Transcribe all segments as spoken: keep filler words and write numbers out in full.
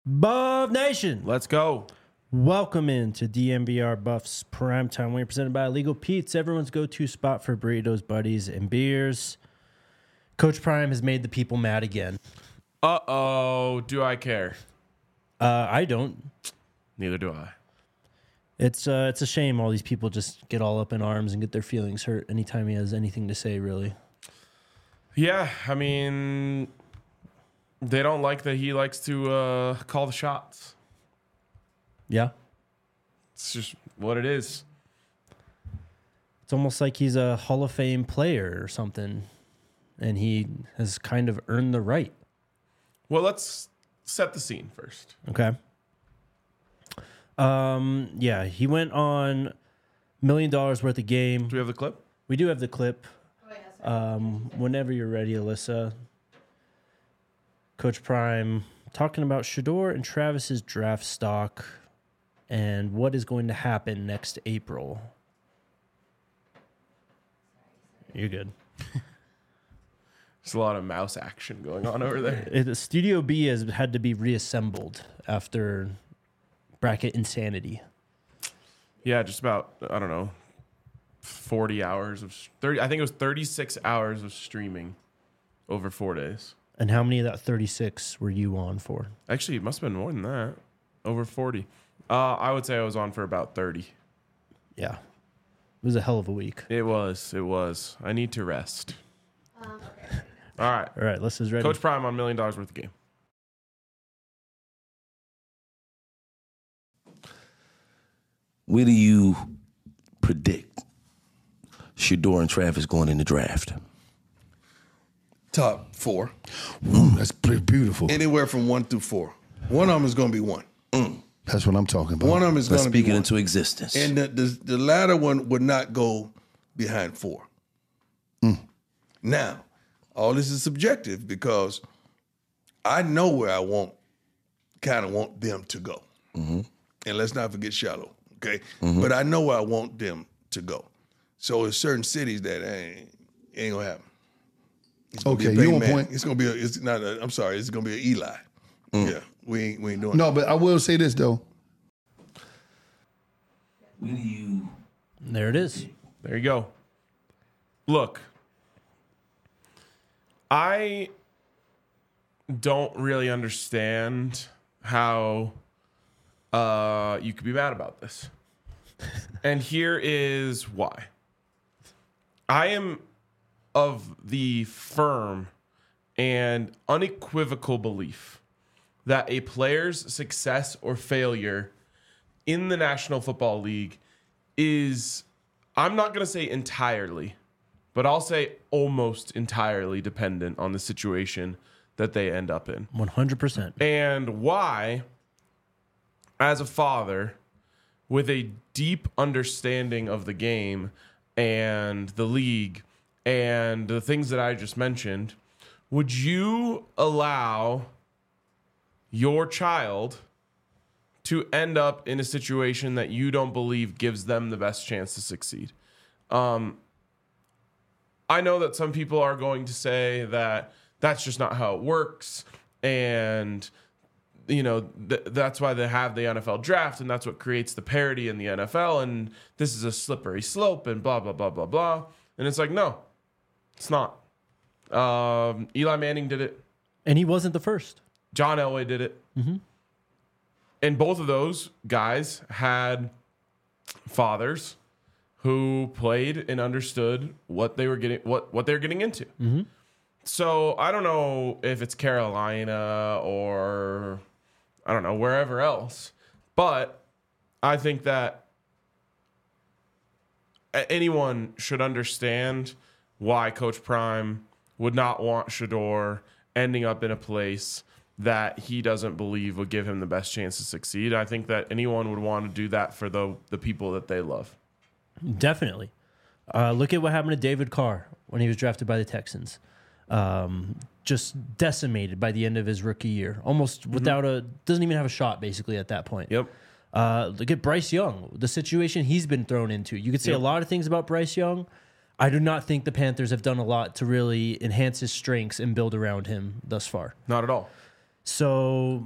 Buff Nation, Let's go. welcome into D M V R Buffs Primetime. We're presented by Illegal Pete's, everyone's go-to spot for burritos, buddies, and beers. Coach Prime has made the people mad again. Uh-oh. Do I care? Uh, I don't. Neither do I. It's uh, it's a shame all these people just get all up in arms and get their feelings hurt anytime he has anything to say, really. Yeah, I mean, they don't like that he likes to uh, call the shots. Yeah. It's just what it is. It's almost like he's a Hall of Fame player or something, and he has kind of earned the right. Well, let's set the scene first. Okay. Um. Yeah, he went on million dollars worth of game. Do we have the clip? We do have the clip. Um. Whenever you're ready, Alyssa. Coach Prime talking about Shedeur and Travis's draft stock and what is going to happen next April. You're good. There's a lot of mouse action going on over there. It, Studio B has had to be reassembled after bracket insanity. Yeah, just about, I don't know, forty hours of, thirty. I think it was thirty-six hours of streaming over four days. And how many of that thirty-six were you on for? Actually, it must have been more than that. Over forty. Uh, I would say I was on for about thirty. Yeah. It was a hell of a week. It was. It was. I need to rest. Um, okay. All right. All right, Alyssa's ready. Coach Prime on million dollars worth of game. Where do you predict Shedeur and Travis going in the draft? Top four. Mm, that's pretty beautiful. Anywhere from one through four. One of them is going to be one. Mm. That's what I'm talking about. One of them is Let's going to be speak it one. into existence. And the, the, the latter one would not go behind four. Mm. Now, all this is subjective because I know where I want, kind of want them to go. Mm-hmm. And let's not forget Shallow, okay? Mm-hmm. But I know where I want them to go. So there's certain cities that ain't, ain't going to happen. It's gonna be Okay, a Peyton you on Manning. point. It's gonna be a. It's not. A, I'm sorry. It's gonna be an Eli. Mm. Yeah, we ain't. We ain't doing. No, but I will say this though. Where do you There it is. There you go. Look, I don't really understand how uh, you could be mad about this. And here is why. I am of the firm and unequivocal belief that a player's success or failure in the National Football League is, I'm not going to say entirely, but I'll say almost entirely dependent on the situation that they end up in. one hundred percent. And why, as a father with a deep understanding of the game and the league and the things that I just mentioned, would you allow your child to end up in a situation that you don't believe gives them the best chance to succeed? Um, I know that some people are going to say that that's just not how it works, and you know th- that's why they have the N F L draft, and that's what creates the parity in the N F L, and this is a slippery slope, and blah blah blah blah blah. And it's like, no, it's not. Um, Eli Manning did it. And he wasn't the first. John Elway did it. Mm-hmm. And both of those guys had fathers who played and understood what they were getting, what, what they were getting into. Mm-hmm. So I don't know if it's Carolina or I don't know, wherever else, but I think that anyone should understand why Coach Prime would not want Shedeur ending up in a place that he doesn't believe would give him the best chance to succeed. I think that anyone would want to do that for the the people that they love. Definitely. Uh, look at what happened to David Carr when he was drafted by the Texans. Um, just decimated by the end of his rookie year. Almost mm-hmm. without a... Doesn't even have a shot, basically, at that point. Yep. Uh, look at Bryce Young. The situation he's been thrown into. You could say yep. a lot of things about Bryce Young. I do not think the Panthers have done a lot to really enhance his strengths and build around him thus far. Not at all. So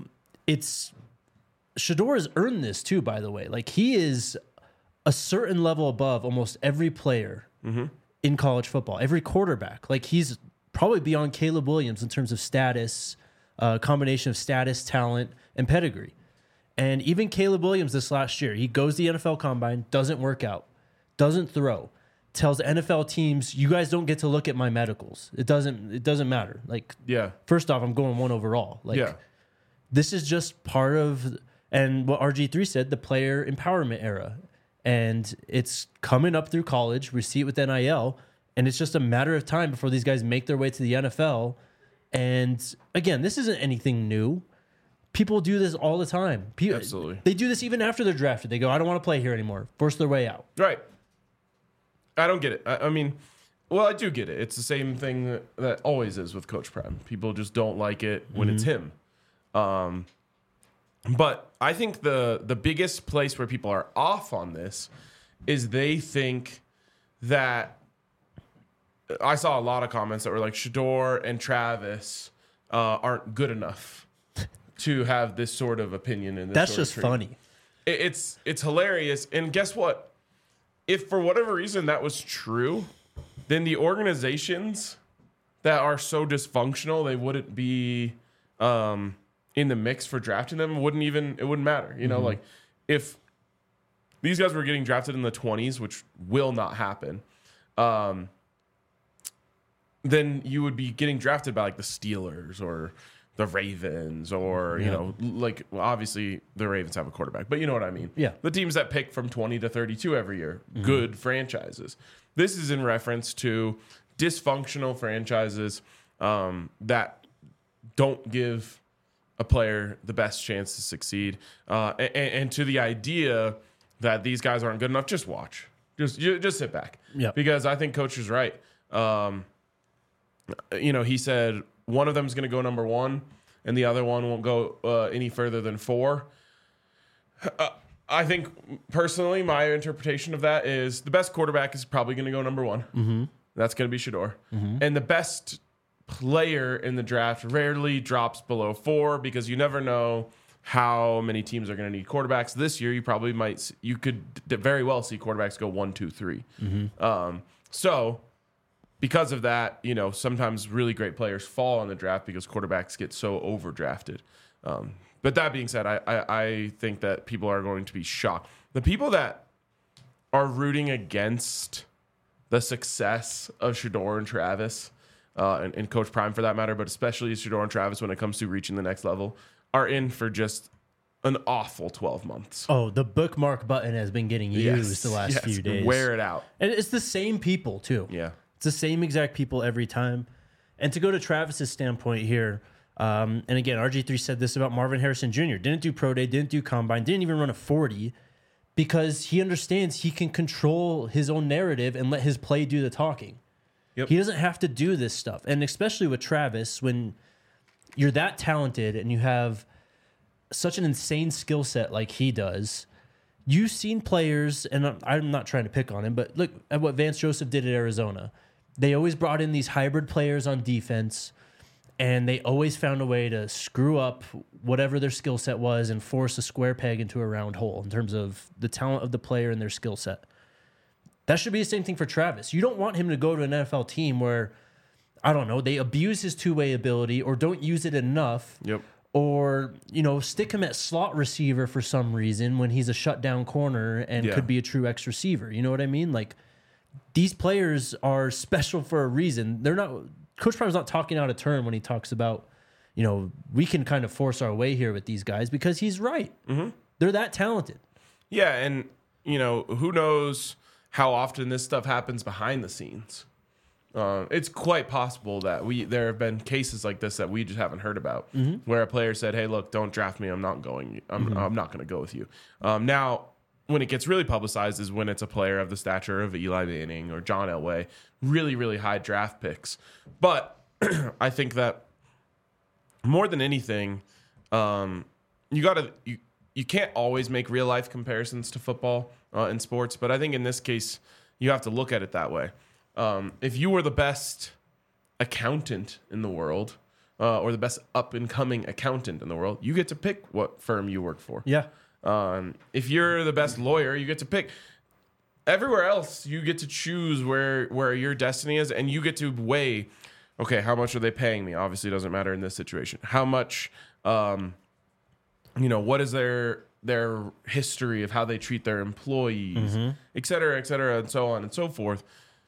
it's Shedeur has earned this too, by the way. Like, he is a certain level above almost every player Mm-hmm. in college football, every quarterback. Like, he's probably beyond Caleb Williams in terms of status, a uh, combination of status, talent, and pedigree. And even Caleb Williams this last year, he goes to the N F L Combine, doesn't work out, doesn't throw, tells N F L teams, you guys don't get to look at my medicals. It doesn't it doesn't matter. Like, Yeah. first off, I'm going one overall. Like, Yeah. this is just part of, and what R G three said, the player empowerment era. And it's coming up through college. We see it with N I L. And it's just a matter of time before these guys make their way to the N F L. And again, this isn't anything new. People do this all the time. People, Absolutely. They do this even after they're drafted. They go, I don't want to play here anymore. Force their way out. Right. I don't get it. I, I mean, well, I do get it. It's the same thing that, that always is with Coach Prime. People just don't like it when it's him. Um, but I think the the biggest place where people are off on this is they think that I saw a lot of comments that were like Shedeur and Travis uh, aren't good enough to have this sort of opinion in this. That's sort of just treatment. funny. It, it's it's hilarious. And guess what? If for whatever reason that was true, then the organizations that are so dysfunctional they wouldn't be um, in the mix for drafting them. Wouldn't even it wouldn't matter. You know, like if these guys were getting drafted in the twenties, which will not happen, um, then you would be getting drafted by like the Steelers or the Ravens or, you Yeah. know, like well, obviously the Ravens have a quarterback, but you know what I mean? Yeah. The teams that pick from twenty to thirty-two every year, good franchises. This is in reference to dysfunctional franchises um, that don't give a player the best chance to succeed. Uh, and, and to the idea that these guys aren't good enough, just watch. Just you, just sit back. Yeah. Because I think Coach is right. Um, you know, he said one of them is going to go number one and the other one won't go uh, any further than four. Uh, I think personally, my interpretation of that is the best quarterback is probably going to go number one. Mm-hmm. That's going to be Shedeur. Mm-hmm. And the best player in the draft rarely drops below four because you never know how many teams are going to need quarterbacks. This year, you probably might, you could very well see quarterbacks go one, two, three. Mm-hmm. Um, so because of that, you know, sometimes really great players fall on the draft because quarterbacks get so overdrafted. Um, but that being said, I, I, I think that people are going to be shocked. The people that are rooting against the success of Shedeur and Travis, uh, and, and Coach Prime for that matter, but especially Shedeur and Travis when it comes to reaching the next level, are in for just an awful twelve months. Oh, the bookmark button has been getting used Yes, the last yes, few days. Wear it out. And it's the same people, too. Yeah. It's the same exact people every time. And to go to Travis's standpoint here, um, and again, R G three said this about Marvin Harrison Junior Didn't do pro day, didn't do combine, didn't even run a forty because he understands he can control his own narrative and let his play do the talking. Yep. He doesn't have to do this stuff. And especially with Travis, when you're that talented and you have such an insane skill set like he does, you've seen players, and I'm- I'm not trying to pick on him, but look at what Vance Joseph did at Arizona. They always brought in these hybrid players on defense, and they always found a way to screw up whatever their skill set was and force a square peg into a round hole in terms of the talent of the player and their skill set. That should be the same thing for Travis. You don't want him to go to an N F L team where, I don't know, they abuse his two-way ability or don't use it enough. Yep. Or, you know, stick him at slot receiver for some reason when he's a shutdown corner and Yeah. could be a true X receiver. You know what I mean? Like, these players are special for a reason. They're not, Coach Prime's not talking out of turn when he talks about, you know, we can kind of force our way here with these guys because he's right. Mm-hmm. They're that talented. Yeah, and, you know, who knows how often this stuff happens behind the scenes. Uh, it's quite possible that we there have been cases like this that we just haven't heard about, mm-hmm. where a player said, "Hey, look, don't draft me. I'm not going. I'm mm-hmm. I'm not going to go with you." Um, now, when it gets really publicized is when it's a player of the stature of Eli Manning or John Elway, really, really high draft picks. But I think that more than anything, um, you got to you you can't always make real life comparisons to football uh, in sports, but I think in this case you have to look at it that way. Um, if you were the best accountant in the world, uh, or the best up and coming accountant in the world, you get to pick what firm you work for. Yeah. Um, if you're the best lawyer, you get to pick. Everywhere else, you get to choose where where your destiny is, and you get to weigh. Okay, how much are they paying me? Obviously, it doesn't matter in this situation. How much, um, you know, what is their their history of how they treat their employees, Mm-hmm. et cetera, et cetera, and so on and so forth.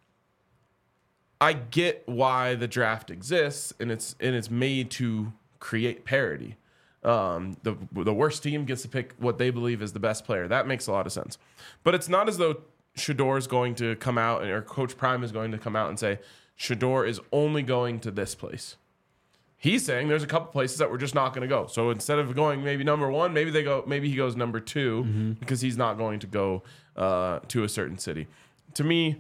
I get why the draft exists, and it's and it's made to create parity. Um, the the worst team gets to pick what they believe is the best player. That makes a lot of sense. But it's not as though Shedeur is going to come out, or Coach Prime is going to come out and say Shedeur is only going to this place. He's saying there's a couple places that we're just not going to go. So instead of going maybe number one, maybe they go. Maybe he goes number two mm-hmm. because he's not going to go uh, to a certain city. To me,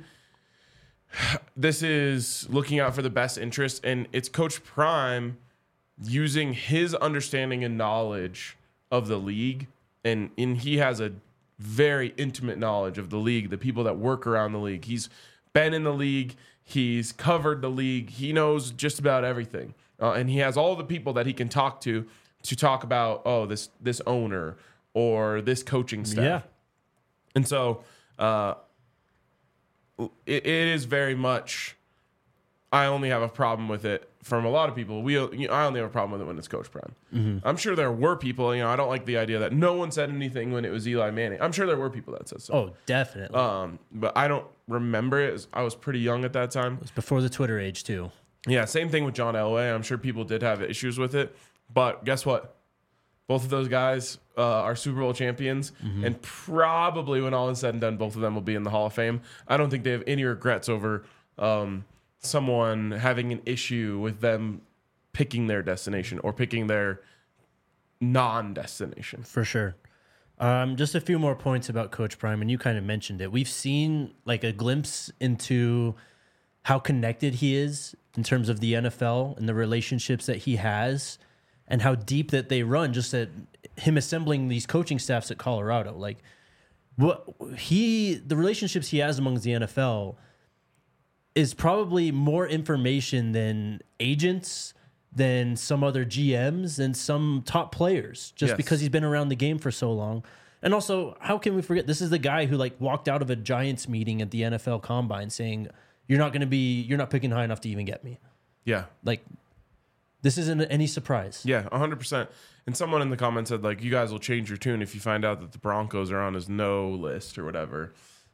this is looking out for the best interest, and it's Coach Prime using his understanding and knowledge of the league, and, and he has a very intimate knowledge of the league, the people that work around the league. He's been in the league. He's covered the league. He knows just about everything. Uh, and he has all the people that he can talk to to talk about, oh, this this owner or this coaching staff. Yeah. And so uh, it, it is very much, I only have a problem with it from a lot of people. We, you know, I only have a problem with it when it's Coach Prime. Mm-hmm. I'm sure there were people, you know, I don't like the idea that no one said anything when it was Eli Manning. I'm sure there were people that said so. Oh, definitely. Um, but I don't remember it. I was pretty young at that time. It was before the Twitter age, too. Yeah, same thing with John Elway. I'm sure people did have issues with it. But guess what? Both of those guys uh, are Super Bowl champions. Mm-hmm. And probably when all is said and done, both of them will be in the Hall of Fame. I don't think they have any regrets over um, someone having an issue with them picking their destination or picking their non-destination. For sure. Um, just a few more points about Coach Prime, and you kind of mentioned it. We've seen like a glimpse into how connected he is in terms of the N F L and the relationships that he has and how deep that they run, just at him assembling these coaching staffs at Colorado. Like what he, the relationships he has amongst the N F L is probably more information than agents, than some other G Ms, and some top players, just Yes. because he's been around the game for so long. And also, how can we forget, this is the guy who like walked out of a Giants meeting at the N F L Combine saying, you're not going to be, you're not picking high enough to even get me. Yeah. Like, this isn't any surprise. Yeah, one hundred percent. And someone in the comments said, like, you guys will change your tune if you find out that the Broncos are on his no list or whatever.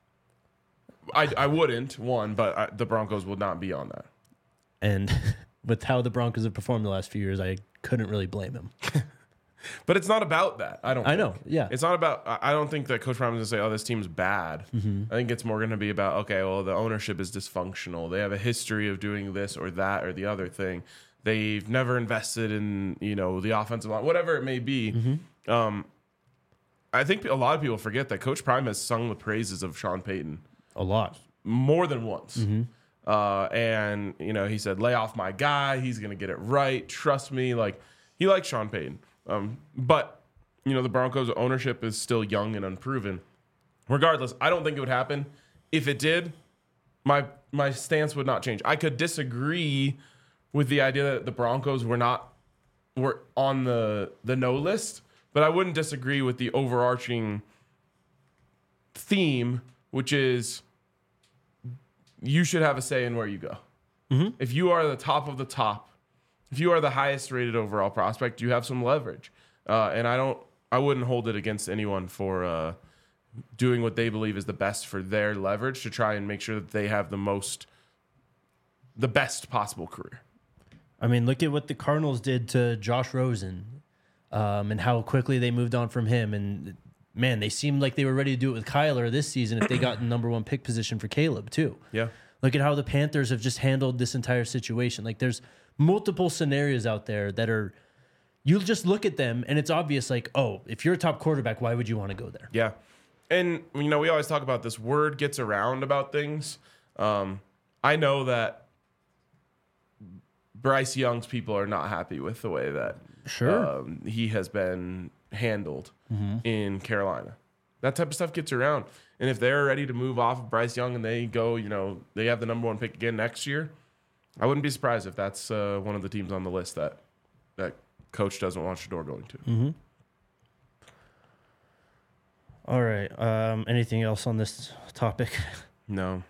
I, I wouldn't, one, but I, the Broncos would not be on that. And with how the Broncos have performed the last few years, I couldn't really blame him. But it's not about that. I don't I think. know, yeah. It's not about, I I don't think that Coach Prime is going to say, oh, this team's bad. Mm-hmm. I think it's more going to be about, okay, well, the ownership is dysfunctional. They have a history of doing this or that or the other thing. They've never invested in, you know, the offensive line, whatever it may be. Mm-hmm. Um, I think a lot of people forget that Coach Prime has sung the praises of Sean Payton A lot. more than once. Mm-hmm. Uh, and, you know, he said, lay off my guy. He's going to get it right. Trust me. Like, he likes Sean Payton. Um, but, you know, the Broncos ownership is still young and unproven. Regardless, I don't think it would happen. If it did, my my stance would not change. I could disagree with the idea that the Broncos were not were on the the no list, but I wouldn't disagree with the overarching theme, which is you should have a say in where you go. Mm-hmm. If you are the top of the top, if you are the highest rated overall prospect, you have some leverage. Uh, and I don't, I wouldn't hold it against anyone for uh, doing what they believe is the best for their leverage to try and make sure that they have the most, the best possible career. I mean, look at what the Cardinals did to Josh Rosen, um, and how quickly they moved on from him. And man, they seemed like they were ready to do it with Kyler this season if they got in number one pick position for Caleb too. Yeah. Look at how the Panthers have just handled this entire situation. Like there's multiple scenarios out there that are, you just look at them and it's obvious like, oh, if you're a top quarterback, why would you want to go there? Yeah. And, you know, we always talk about this word gets around about things. Um, I know that Bryce Young's people are not happy with the way that Sure. um, he has been handled Mm-hmm. in Carolina. That type of stuff gets around. And if they're ready to move off of Bryce Young and they go, you know, they have the number one pick again next year, I wouldn't be surprised if that's uh, one of the teams on the list that that coach doesn't want Shedeur going to. Mm-hmm. All right. Um, anything else on this topic? No.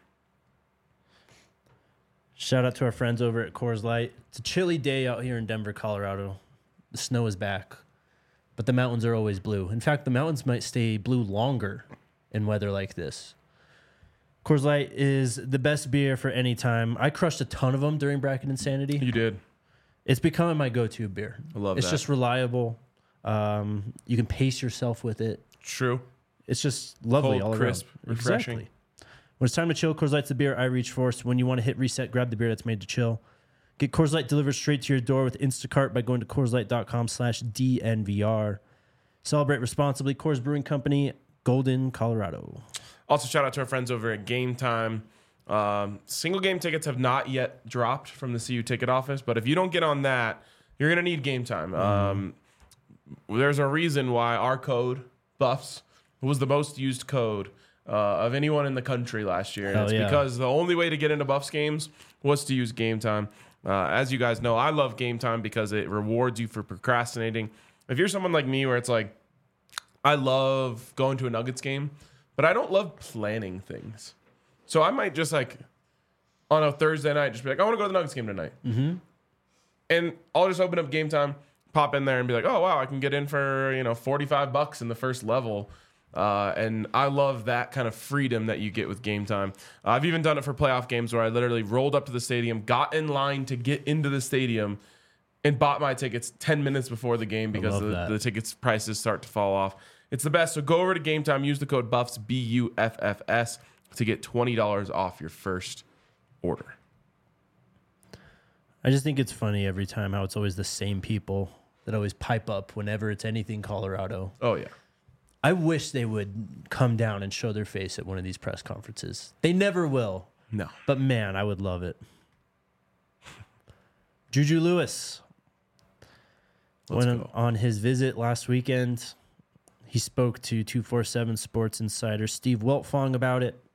Shout out to our friends over at Coors Light. It's a chilly day out here in Denver, Colorado. The snow is back, but the mountains are always blue. In fact, the mountains might stay blue longer in weather like this. Coors Light is the best beer for any time. I crushed a ton of them during Bracket Insanity. You did. It's becoming my go-to beer. I love it's that. It's just reliable. Um, you can pace yourself with it. True. It's just lovely Cold, all crisp, around. refreshing. Exactly. When it's time to chill, Coors Light's the beer I reach for. So when you want to hit reset, grab the beer that's made to chill. Get Coors Light delivered straight to your door with Instacart by going to CoorsLight.com slash DNVR. Celebrate responsibly. Coors Brewing Company, Golden, Colorado. Also, shout out to our friends over at Game Time. Um, single game tickets have not yet dropped from the C U ticket office, but if you don't get on that, you're going to need Game Time. Mm. Um, there's a reason why our code, Buffs, was the most used code uh, of anyone in the country last year. And Hell it's yeah. because the only way to get into Buffs games was to use Game Time. Uh, as you guys know, I love Game Time because it rewards you for procrastinating. If you're someone like me where it's like, I love going to a Nuggets game, but I don't love planning things. So I might just like, on a Thursday night, just be like, I want to go to the Nuggets game tonight. Mm-hmm. And I'll just open up Game Time, pop in there and be like, oh, wow, I can get in for, you know, forty-five bucks in the first level. Uh, and I love that kind of freedom that you get with Game Time. Uh, I've even done it for playoff games where I literally rolled up to the stadium, got in line to get into the stadium, and bought my tickets ten minutes before the game because love the, that. the tickets prices start to fall off. It's the best. So go over to Game Time, use the code BUFFS, B U F F S, to get twenty dollars off your first order. I just think it's funny every time how it's always the same people that always pipe up whenever it's anything Colorado. Oh, yeah. I wish they would come down and show their face at one of these press conferences. They never will. No. But man, I would love it. Juju Lewis Let's went go. on his visit last weekend. He spoke to two forty-seven Sports Insider Steve Wiltfong about it.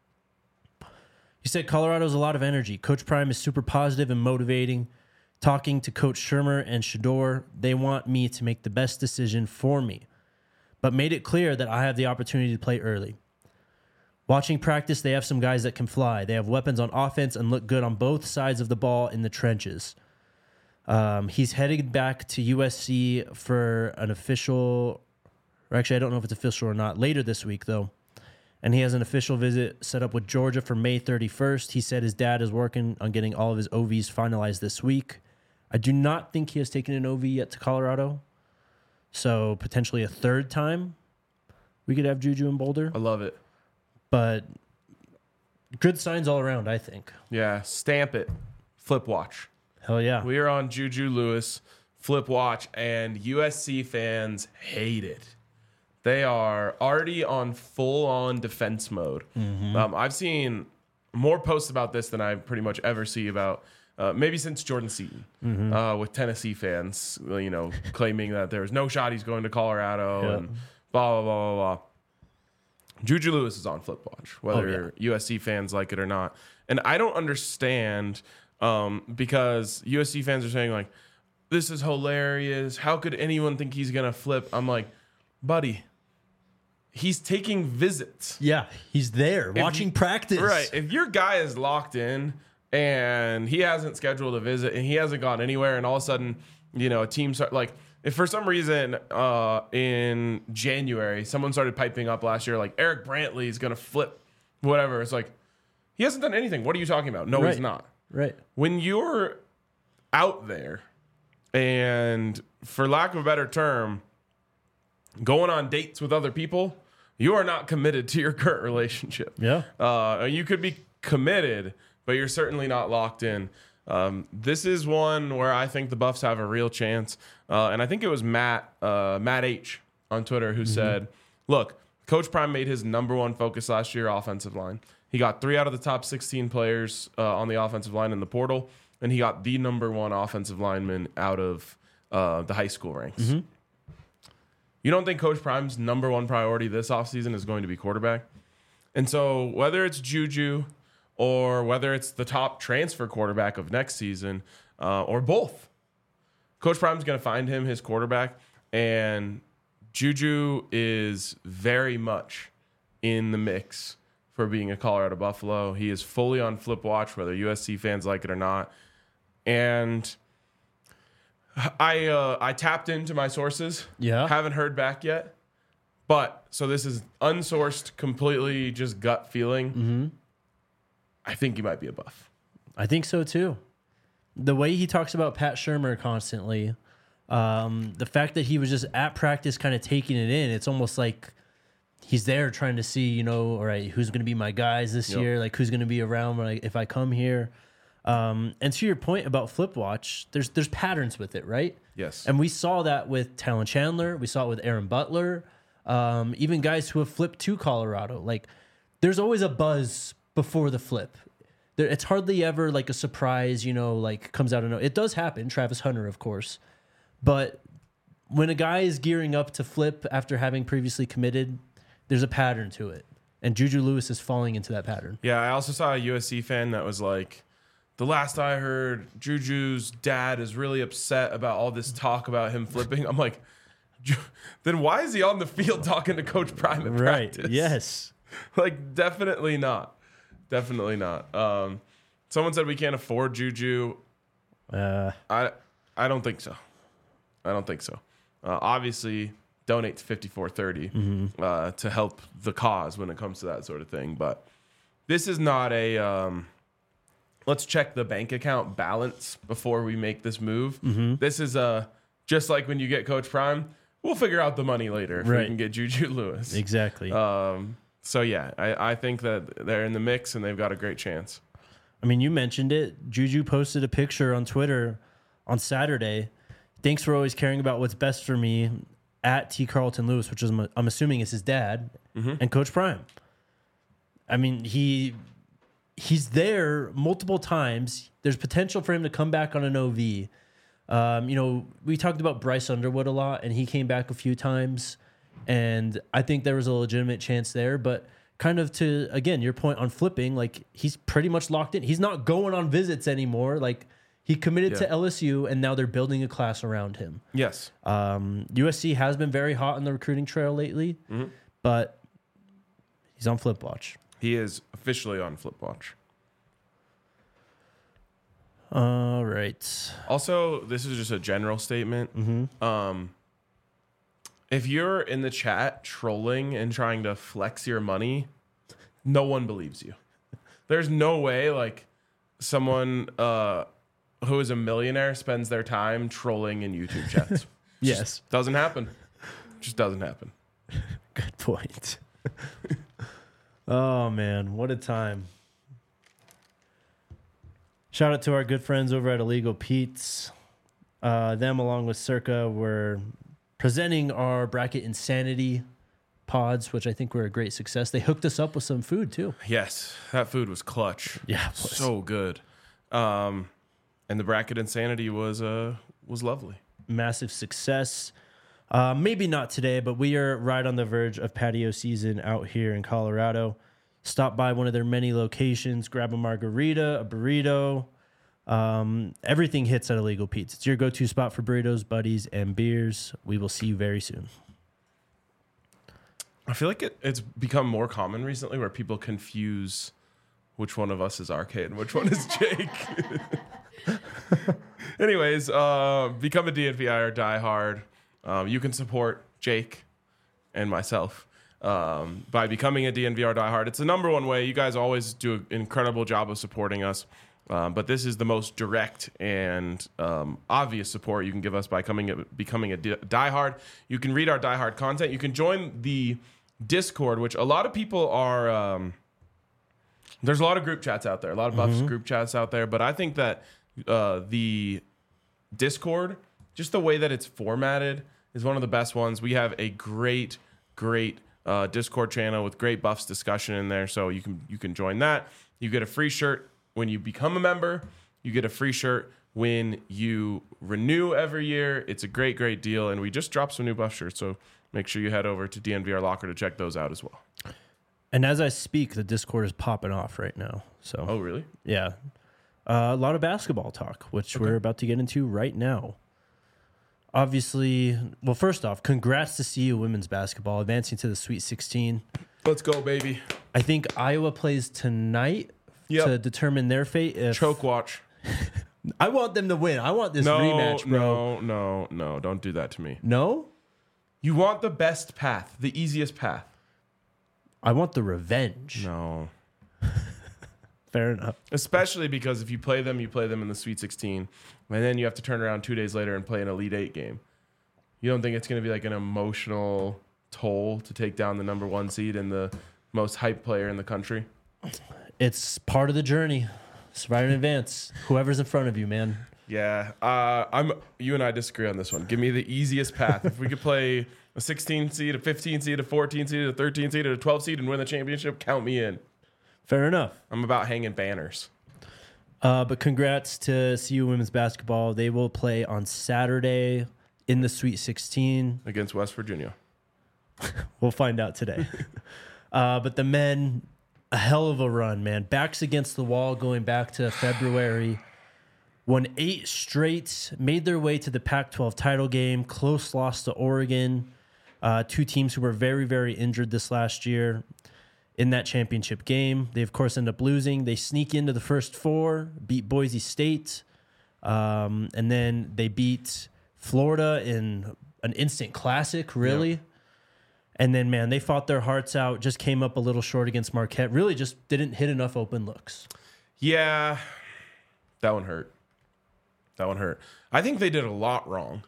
He said Colorado's a lot of energy. Coach Prime is super positive and motivating. Talking to Coach Shermer and Shedeur, they want me to make the best decision for me, but made it clear that I have the opportunity to play early. Watching practice, they have some guys that can fly. They have weapons on offense and look good on both sides of the ball in the trenches. Um, he's headed back to U S C for an official, or actually, I don't know if it's official or not, later this week, though. And he has an official visit set up with Georgia for May thirty-first. He said his dad is working on getting all of his O Vs finalized this week. I do not think he has taken an O V yet to Colorado. So potentially a third time we could have Juju in Boulder. I love it. But good signs all around, I think. Yeah. Stamp it. Flip watch. Hell yeah. We are on Juju Lewis flip watch, and U S C fans hate it. They are already on full-on defense mode. Mm-hmm. Um, I've seen more posts about this than I pretty much ever see about, uh, maybe since Jordan Seaton, mm-hmm. uh, with Tennessee fans, you know, claiming that there's no shot he's going to Colorado Yeah. and blah, blah, blah, blah, blah. Juju Lewis is on flip watch, whether Oh, yeah. U S C fans like it or not. And I don't understand um, because U S C fans are saying, like, this is hilarious. How could anyone think he's going to flip? I'm like, buddy, he's taking visits. Yeah, he's there watching you- practice. Right. If your guy is locked in and he hasn't scheduled a visit and he hasn't gone anywhere, and all of a sudden, you know, a team start like, if for some reason uh, in January someone started piping up last year, like Eric Brantley is going to flip whatever, it's like, he hasn't done anything. What are you talking about? No, Right. he's not. Right. When you're out there and, for lack of a better term, going on dates with other people, you are not committed to your current relationship. Yeah. Uh, you could be committed, but you're certainly not locked in. Um, this is one where I think the Buffs have a real chance. Uh, and I think it was Matt, uh, Matt H on Twitter who mm-hmm. said, look, Coach Prime made his number one focus last year offensive line. He got three out of the top sixteen players uh, on the offensive line in the portal, and he got the number one offensive lineman out of uh, the high school ranks. Mm-hmm. You don't think Coach Prime's number one priority this offseason is going to be quarterback? And so whether it's Juju or whether it's the top transfer quarterback of next season, uh, or both. Coach Prime's going to find him his quarterback, and Juju is very much in the mix for being a Colorado Buffalo. He is fully on flip watch, whether U S C fans like it or not. And I uh, I tapped into my sources. Yeah. Haven't heard back yet. But, so this is unsourced, completely just gut feeling. Mm-hmm. I think he might be a Buff. I think so too. The way he talks about Pat Shurmur constantly, um, the fact that he was just at practice kind of taking it in, it's almost like he's there trying to see, you know, all right, who's going to be my guys this Yep. year? Like, who's going to be around when I, if I come here? Um, and to your point about Flip Watch, there's there's patterns with it, right? Yes. And we saw that with Talon Chandler. We saw it with Aaron Butler. Um, even guys who have flipped to Colorado. Like, there's always a buzz before the flip. There, it's hardly ever like a surprise, you know, like comes out of no. It does happen. Travis Hunter, of course. But when a guy is gearing up to flip after having previously committed, there's a pattern to it. And Juju Lewis is falling into that pattern. Yeah, I also saw a U S C fan that was like, the last I heard, Juju's dad is really upset about all this talk about him flipping. I'm like, then why is he on the field talking to Coach Prime at Right. practice? Yes. Like, definitely not. Definitely not. Um, someone said we can't afford Juju. Uh, I I don't think so. I don't think so. Uh, obviously, donate to fifty-four thirty Mm-hmm. uh, to help the cause when it comes to that sort of thing. But this is not a um, let's check the bank account balance before we make this move. Mm-hmm. This is a just like when you get Coach Prime, we'll figure out the money later if we Right. can get Juju Lewis. exactly. Um, so yeah, I, I think that they're in the mix and they've got a great chance. I mean, you mentioned it. Juju posted a picture on Twitter on Saturday. Thanks for always caring about what's best for me at T. Carlton Lewis, which is, I'm assuming is his dad, Mm-hmm. and Coach Prime. I mean, he he's there multiple times. There's potential for him to come back on an O V. Um, you know, we talked about Bryce Underwood a lot, and he came back a few times. And I think there was a legitimate chance there, but kind of to, again, your point on flipping, like he's pretty much locked in. He's not going on visits anymore. Like he committed Yeah. to L S U and now they're building a class around him. Yes. Um, U S C has been very hot on the recruiting trail lately, Mm-hmm. but he's on flip watch. He is officially on Flip Watch. All right. Also, this is just a general statement. Mm-hmm. Um, if you're in the chat trolling and trying to flex your money, no one believes you. There's no way like someone uh, who is a millionaire spends their time trolling in YouTube chats. Yes. Just doesn't happen. Just doesn't happen. Good point. Oh, man. What a time. Shout out to our good friends over at Illegal Pete's. Uh, them, along with Circa, were presenting our Bracket Insanity pods, which I think were a great success. They hooked us up with some food, too. Yes, that food was clutch. Yeah, it was. So good. Um, and the Bracket Insanity was uh, was lovely. Massive success. Uh, maybe not today, but we are right on the verge of patio season out here in Colorado. Stop by one of their many locations, grab a margarita, a burrito. Um, everything hits at Illegal Pete's. It's your go-to spot for burritos, buddies, and beers. We will see you very soon. I feel like it, it's become more common recently where people confuse which one of us is R K and which one is Jake. Anyways, uh, become a D N V I or Die Hard. Um, you can support Jake and myself um, by becoming a D N V R Die Hard. It's the number one way. You guys always do an incredible job of supporting us. Um, but this is the most direct and um, obvious support you can give us by coming a, becoming a di- diehard. You can read our diehard content. You can join the Discord, which a lot of people are. Um, there's a lot of group chats out there, a lot of Buffs Mm-hmm. group chats out there. But I think that uh, the Discord, just the way that it's formatted, is one of the best ones. We have a great, great uh, Discord channel with great Buffs discussion in there, so you can you can join that. You get a free shirt when you become a member. You get a free shirt when you renew every year. It's a great, great deal, and we just dropped some new Buff shirts, so make sure you head over to D N V R Locker to check those out as well. And as I speak, the Discord is popping off right now. So, Oh, really? yeah. Uh, a lot of basketball talk, which we're about to get into right now. Obviously, well, first off, congrats to C U women's basketball advancing to the Sweet sixteen. Let's go, baby. I think Iowa plays tonight Yep. to determine their fate. If, Choke watch. I want them to win. I want this No, rematch, bro. no, no, no. Don't do that to me. No? You want the best path, the easiest path. I want the revenge. No. Fair enough. Especially because if you play them, you play them in the Sweet sixteen, and then you have to turn around two days later and play an Elite Eight game. You don't think it's going to be like an emotional toll to take down the number one seed and the most hyped player in the country? It's part of the journey. Survive in advance. Whoever's in front of you, man. Yeah, uh, I'm. You and I disagree on this one. Give me the easiest path. If we could play a sixteen seed, a fifteen seed, a fourteen seed, a thirteen seed, and a twelve seed, and win the championship, count me in. Fair enough. I'm about hanging banners. Uh, but congrats to C U women's basketball. They will play on Saturday in the Sweet sixteen. Against West Virginia. We'll find out today. uh, but the men, a hell of a run, man. Backs against the wall going back to February. Won eight straight, made their way to the Pac twelve title game. Close loss to Oregon. Uh, two teams who were very, very injured this last year in that championship game. They, of course, end up losing. They sneak into the first four, beat Boise State, um, and then they beat Florida in an instant classic, really. Yeah. And then, man, they fought their hearts out, just came up a little short against Marquette. Really just didn't hit enough open looks. Yeah, that one hurt. That one hurt. I think they did a lot wrong.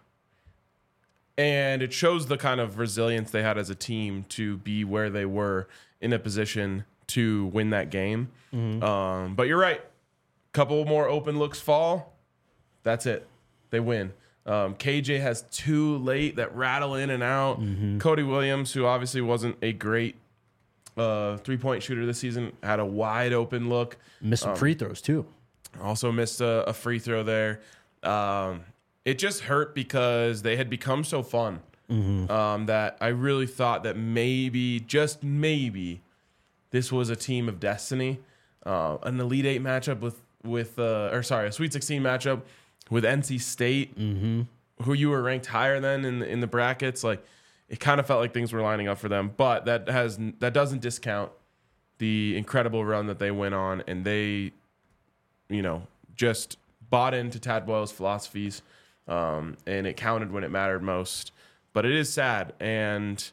And it shows the kind of resilience they had as a team to be where they were in a position to win that game. Mm-hmm. Um, but you're right. Couple more open looks fall. That's it. They win. Um, K J has two late that rattle in and out. Mm-hmm. Cody Williams, who obviously wasn't a great uh, three-point shooter this season, had a wide open look. Missed some free throws, too. Also missed a, a free throw there. Um, it just hurt because they had become so fun um, that I really thought that maybe, just maybe, this was a team of destiny. Uh, an Elite Eight matchup with, with uh, or sorry, a Sweet sixteen matchup with N C State, Mm-hmm. who you were ranked higher than in the, in the brackets. Like, it kind of felt like things were lining up for them, but that has that doesn't discount the incredible run that they went on, and they, you know, just bought into Tad Boyle's philosophies, um, and it counted when it mattered most. But it is sad, and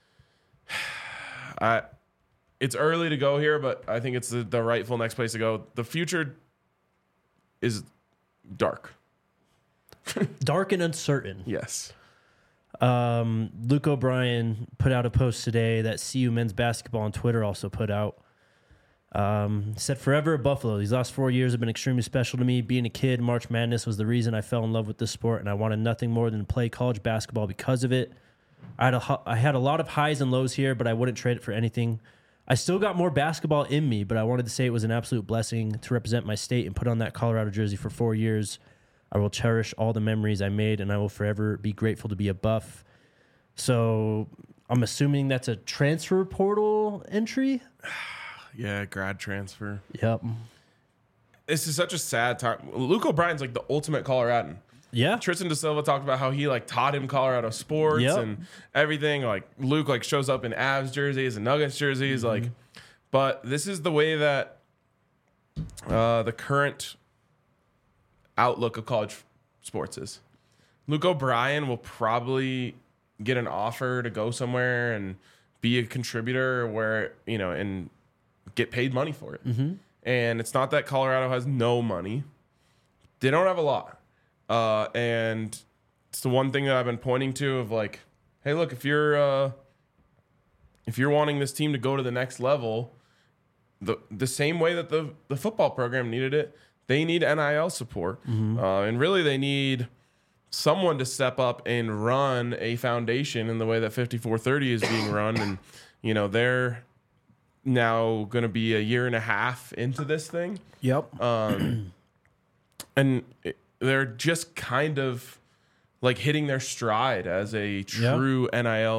I, it's early to go here, but I think it's the, the rightful next place to go. The future is dark. Dark and uncertain. Yes. Um, Luke O'Brien put out a post today that C U men's basketball on Twitter also put out. Um, said, forever a Buffalo. These last four years have been extremely special to me. Being a kid, March Madness was the reason I fell in love with this sport, and I wanted nothing more than to play college basketball because of it. I had a, I had a lot of highs and lows here, but I wouldn't trade it for anything. I still got more basketball in me, but I wanted to say it was an absolute blessing to represent my state and put on that Colorado jersey for four years. I will cherish all the memories I made, and I will forever be grateful to be a Buff. So I'm assuming that's a transfer portal entry? Yeah, grad transfer. Yep. This is such a sad time. Luke O'Brien's like the ultimate Coloradan. Yeah. Tristan Da Silva talked about how he like taught him Colorado sports Yep. and everything. Like Luke like shows up in Avs jerseys and Nuggets jerseys. Mm-hmm. Like, but this is the way that uh, the current outlook of college sports is. Luke O'Brien will probably get an offer to go somewhere and be a contributor where, you know, and get paid money for it. Mm-hmm. And it's not that Colorado has no money. They don't have a lot. Uh, and it's the one thing that I've been pointing to of like, hey, look, if you're uh, if you're wanting this team to go to the next level, the the same way that the, the football program needed it, they need N I L support. Mm-hmm. Uh, and really they need someone to step up and run a foundation in the way that fifty-four thirty is being run. And, you know, they're now going to be a year and a half into this thing. Yep. Um, and it, they're just kind of like hitting their stride as a true N I L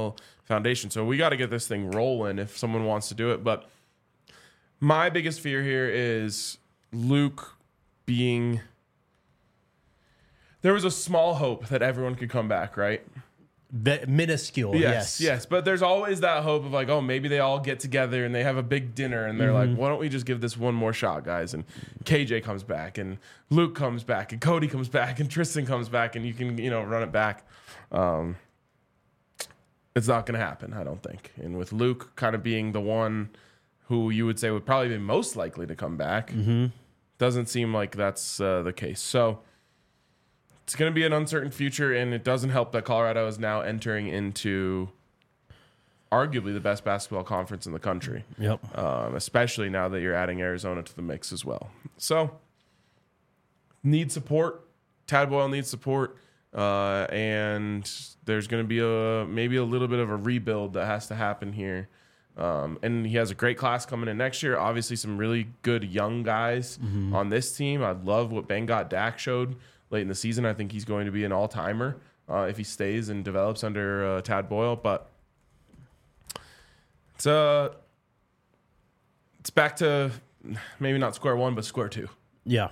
foundation. So we got to get this thing rolling if someone wants to do it. But my biggest fear here is Luke being. There was a small hope that everyone could come back, right? Be- minuscule, Yes, yes. yes. But there's always that hope of like, oh, maybe they all get together and they have a big dinner and they're Mm-hmm. like, why don't we just give this one more shot, guys? And K J comes back and Luke comes back and Cody comes back and Tristan comes back and you can, you know, run it back. Um, it's not going to happen, I don't think. And with Luke kind of being the one who you would say would probably be most likely to come back, Mm-hmm. doesn't seem like that's uh, the case. So it's going to be an uncertain future, and it doesn't help that Colorado is now entering into arguably the best basketball conference in the country, Yep. um, especially now that you're adding Arizona to the mix as well. So, need support. Tad Boyle needs support, uh, and there's going to be a maybe a little bit of a rebuild that has to happen here. Um, and he has a great class coming in next year. Obviously, some really good young guys on this team. I love what Bengot Dak showed late in the season. I think he's going to be an all-timer uh, if he stays and develops under uh, Tad Boyle. But it's uh, it's back to maybe not square one, but square two. Yeah.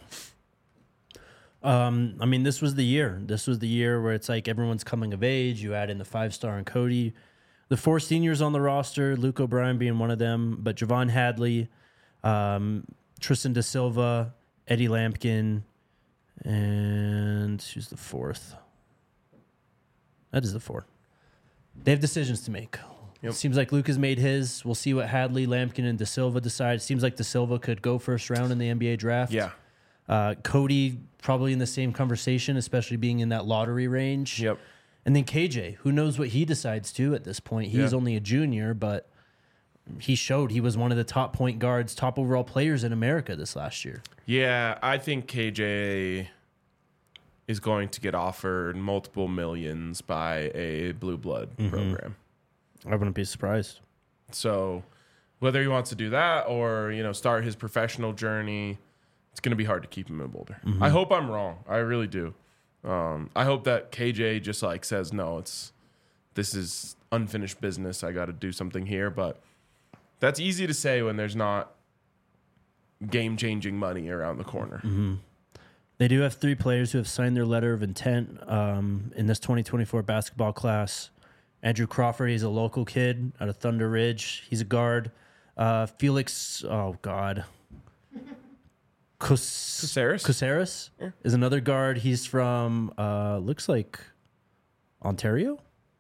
Um, I mean, this was the year. This was the year where it's like everyone's coming of age. You add in the five-star and Cody. The four seniors on the roster, Luke O'Brien being one of them, but Javon Hadley, um, Tristan Da Silva, Eddie Lampkin, and who's the fourth? That is the fourth. They have decisions to make. Yep. Seems like Luke has made his. We'll see what Hadley, Lampkin, and Da Silva decide. Seems like Da Silva could go first round in the N B A draft. Yeah. Uh, Cody probably in the same conversation, especially being in that lottery range. Yep. And then K J, who knows what he decides to at this point. He's Yeah. only a junior, but he showed he was one of the top point guards, top overall players in America this last year. Yeah, I think K J is going to get offered multiple millions by a blue blood program. I wouldn't be surprised. So whether he wants to do that or, you know, start his professional journey, it's going to be hard to keep him in Boulder. I hope I'm wrong. I really do. Um, I hope that K J just like says, no, it's this is unfinished business. I got to do something here. But that's easy to say when there's not game-changing money around the corner. They do have three players who have signed their letter of intent um, in this twenty twenty-four basketball class. Andrew Crawford, he's a local kid out of Thunder Ridge. He's a guard. Uh, Felix, oh, God. Cus- Caceres? Caceres is another guard. He's from, uh, looks like Ontario.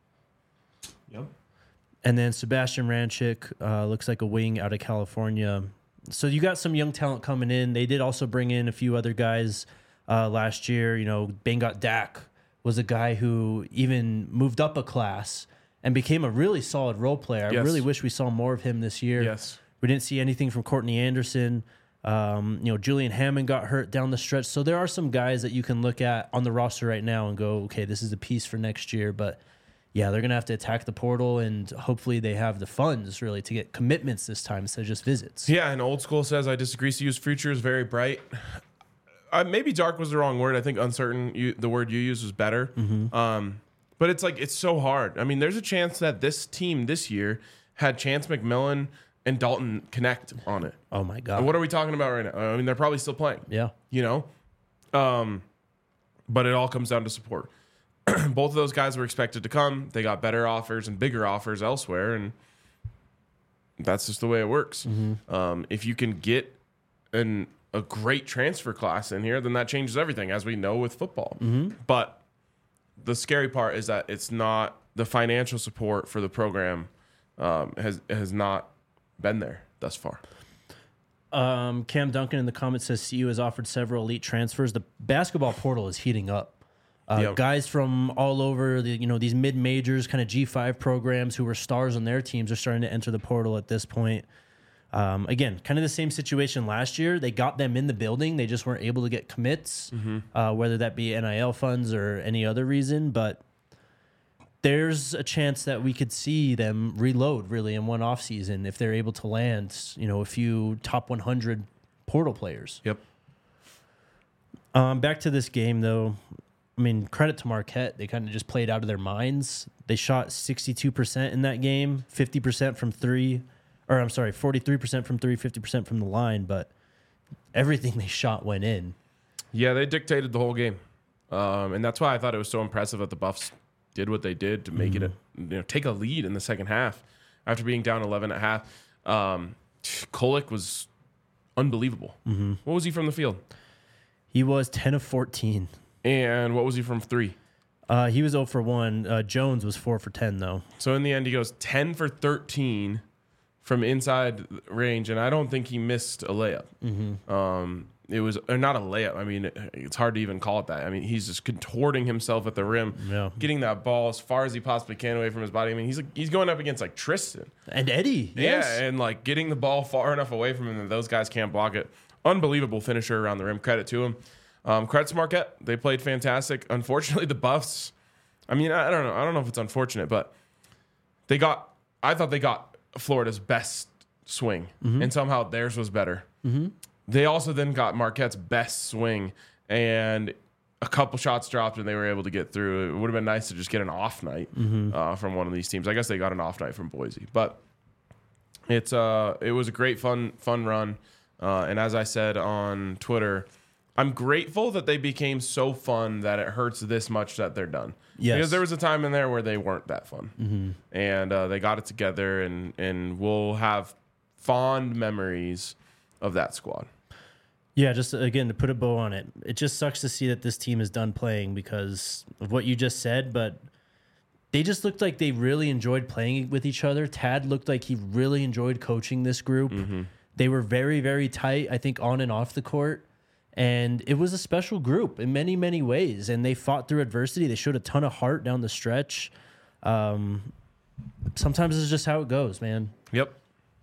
Yep. And then Sebastian Ranchik uh, looks like a wing out of California. So you got some young talent coming in. They did also bring in a few other guys uh, last year. You know, Bengot Dak was a guy who even moved up a class and became a really solid role player. I Yes. really wish we saw more of him this year. Yes. We didn't see anything from Courtney Anderson. Um, you know, Julian Hammond got hurt down the stretch. So there are some guys that you can look at on the roster right now and go, okay, this is a piece for next year. But yeah, they're going to have to attack the portal, and hopefully they have the funds really to get commitments this time instead of just visits. Yeah, and Old School says, I disagree. C U's future is very bright. Uh, maybe dark was the wrong word. I think uncertain, you, the word you used was better. Um, but it's like, it's so hard. I mean, there's a chance that this team this year had Chance McMillan and Dalton connect on it. Oh my God. And what are we talking about right now? I mean, they're probably still playing. Yeah. You know? Um, but it all comes down to support. Both of those guys were expected to come. They got better offers and bigger offers elsewhere, and that's just the way it works. Um, if you can get an a great transfer class in here, then that changes everything, as we know with football. But the scary part is that it's not the financial support for the program um, has has not been there thus far. Um, Cam Duncan in the comments says C U has offered several elite transfers. The basketball portal is heating up. Uh, Yep. Guys from all over the, you know, these mid majors, kind of G five programs who were stars on their teams are starting to enter the portal at this point. Um, again, kind of the same situation last year. They got them in the building. They just weren't able to get commits, uh, whether that be N I L funds or any other reason. But there's a chance that we could see them reload really in one offseason if they're able to land, you know, a few top one hundred portal players. Yep. Um, back to this game, though. I mean, credit to Marquette. They kind of just played out of their minds. They shot sixty-two percent in that game, fifty percent from three, or I'm sorry, forty-three percent from three, fifty percent from the line, but everything they shot went in. Yeah, they dictated the whole game. Um, and that's why I thought it was so impressive that the Buffs did what they did to make mm-hmm. it, a, you know, take a lead in the second half after being down eleven at half. Um, Kolek was unbelievable. Mm-hmm. What was he from the field? He was ten of fourteen. And what was he from three? Uh, he was zero for one. Uh, Jones was four for ten, though. So in the end, he goes ten for thirteen from inside range, and I don't think he missed a layup. Mm-hmm. Um, it was or not a layup. I mean, it, it's hard to even call it that. I mean, he's just contorting himself at the rim, yeah. getting that ball as far as he possibly can away from his body. I mean, he's like, he's going up against like Tristan and Eddie. Yes. Yeah, and like getting the ball far enough away from him that those guys can't block it. Unbelievable finisher around the rim. Credit to him. Um, credit to Marquette. They played fantastic. Unfortunately, the Buffs. I mean, I, I don't know. I don't know if it's unfortunate, but they got. I thought they got Florida's best swing, mm-hmm. and somehow theirs was better. Mm-hmm. They also then got Marquette's best swing, and a couple shots dropped, and they were able to get through. It would have been nice to just get an off night mm-hmm. uh, from one of these teams. I guess they got an off night from Boise, but it's uh, it was a great fun fun run. Uh, and as I said on Twitter, I'm grateful that they became so fun that it hurts this much that they're done. Yes. Because there was a time in there where they weren't that fun, mm-hmm. and uh, they got it together, and and we'll have fond memories of that squad. Yeah, just again to put a bow on it, it just sucks to see that this team is done playing because of what you just said, but they just looked like they really enjoyed playing with each other. Tad looked like he really enjoyed coaching this group. Mm-hmm. They were very, very tight, I think, on and off the court, and it was a special group in many, many ways, and they fought through adversity. They showed a ton of heart down the stretch. Um, sometimes it's just how it goes, man. Yep.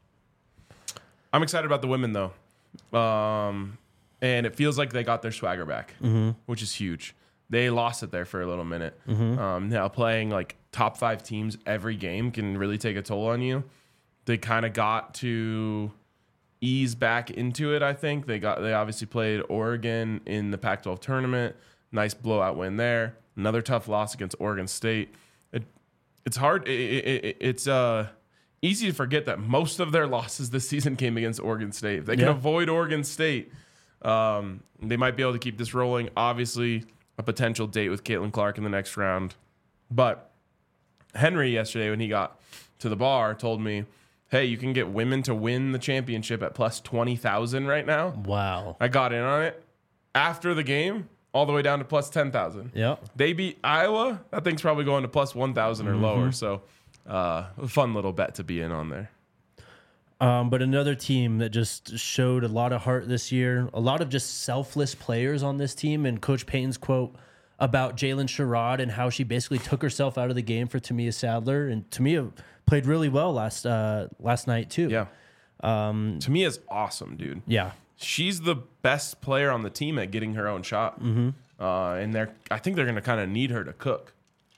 I'm excited about the women, though. Um, and it feels like they got their swagger back, mm-hmm. which is huge. They lost it there for a little minute. Mm-hmm. Um, now playing like top five teams every game can really take a toll on you. They kind of got to ease back into it. I think they got, they obviously played Oregon in the Pac twelve tournament. Nice blowout win there. Another tough loss against Oregon State. It, it's hard. It, it, it, it's, uh, easy to forget that most of their losses this season came against Oregon State. If they can yeah. avoid Oregon State, um, they might be able to keep this rolling. Obviously, a potential date with Caitlin Clark in the next round. But Henry yesterday, when he got to the bar, told me, hey, you can get women to win the championship at plus twenty thousand right now. Wow. I got in on it. After the game, all the way down to plus ten thousand. Yeah. They beat Iowa. That thing's probably going to plus one thousand or mm-hmm. lower. So, Uh, a fun little bet to be in on there. Um, but another team that just showed a lot of heart this year, a lot of just selfless players on this team, and Coach Payton's quote about Jalen Sherrod and how she basically took herself out of the game for Tamia Sadler, and Tamia played really well last uh, last night too. Yeah, um, Tamia's awesome, dude. Yeah, she's the best player on the team at getting her own shot, mm-hmm. uh, and they're I think they're going to kind of need her to cook.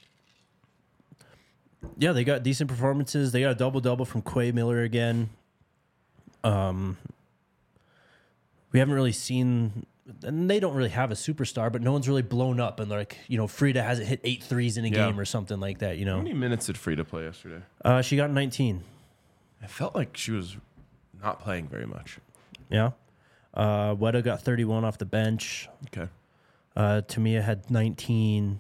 Yeah, they got decent performances. They got a double-double from Quay Miller again. Um, we haven't really seen, and they don't really have a superstar, but no one's really blown up. And like, you know, Frida hasn't hit eight threes in a yeah. game or something like that, you know. How many minutes did Frida play yesterday? Uh, she got nineteen. I felt like she was not playing very much. Yeah. Uh, Weta got thirty-one off the bench. Okay. Uh, Tamia had nineteen.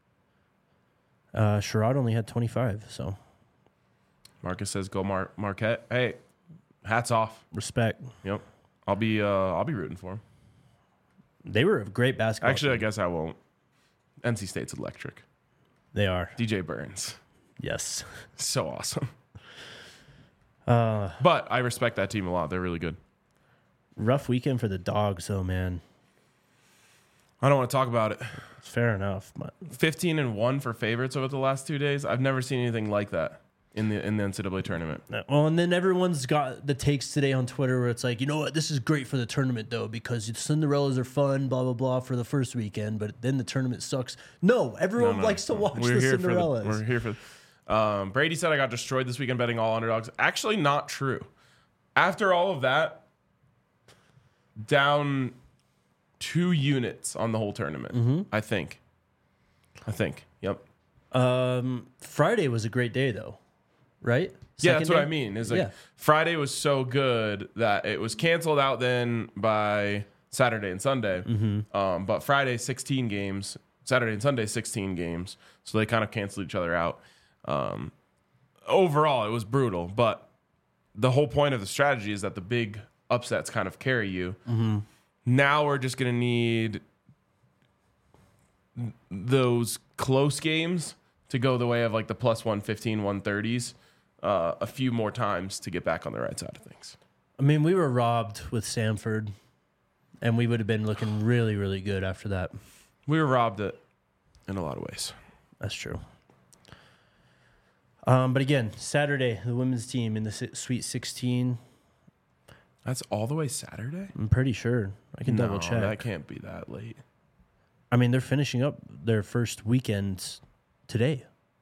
Uh, Sherrod only had twenty-five, so. Marcus says, "Go Mar- Marquette." Hey, hats off. Respect. Yep, I'll be. Uh, I'll be rooting for him. They were a great basketball. Actually, team. I guess I won't. N C State's electric. They are. D J Burns. Yes. So awesome. Uh, but I respect that team a lot. They're really good. Rough weekend for the Dogs, though, man. I don't want to talk about it. Fair enough. But fifteen and one for favorites over the last two days. I've never seen anything like that in the in the N C double A tournament. Well, and then everyone's got the takes today on Twitter where it's like, you know what, this is great for the tournament though because the Cinderellas are fun, blah blah blah for the first weekend, but then the tournament sucks. No, everyone no, no. likes to watch we're the here Cinderellas. For the, we're here for. The, um, Brady said I got destroyed this weekend betting all underdogs. Actually, not true. After all of that, down two units on the whole tournament. Mm-hmm. I think I think. Yep. Um, Friday was a great day though, right? Yeah, Second that's what day? I mean. Is like Yeah. Friday was so good that it was canceled out then by Saturday and Sunday. Mm-hmm. Um, but Friday sixteen games, Saturday and Sunday sixteen games, so they kind of canceled each other out. Um, overall, it was brutal, but the whole point of the strategy is that the big upsets kind of carry you. Mm-hmm. Now we're just gonna need those close games to go the way of like the plus one fifteen, one thirties. Uh, a few more times to get back on the right side of things. I mean, we were robbed with Samford, and we would have been looking really, really good after that. We were robbed it in a lot of ways. That's true. Um, but again, Saturday, the women's team in the si- Sweet sixteen. That's all the way Saturday? I'm pretty sure. I can No, double check. that can't be that late. I mean, they're finishing up their first weekend today.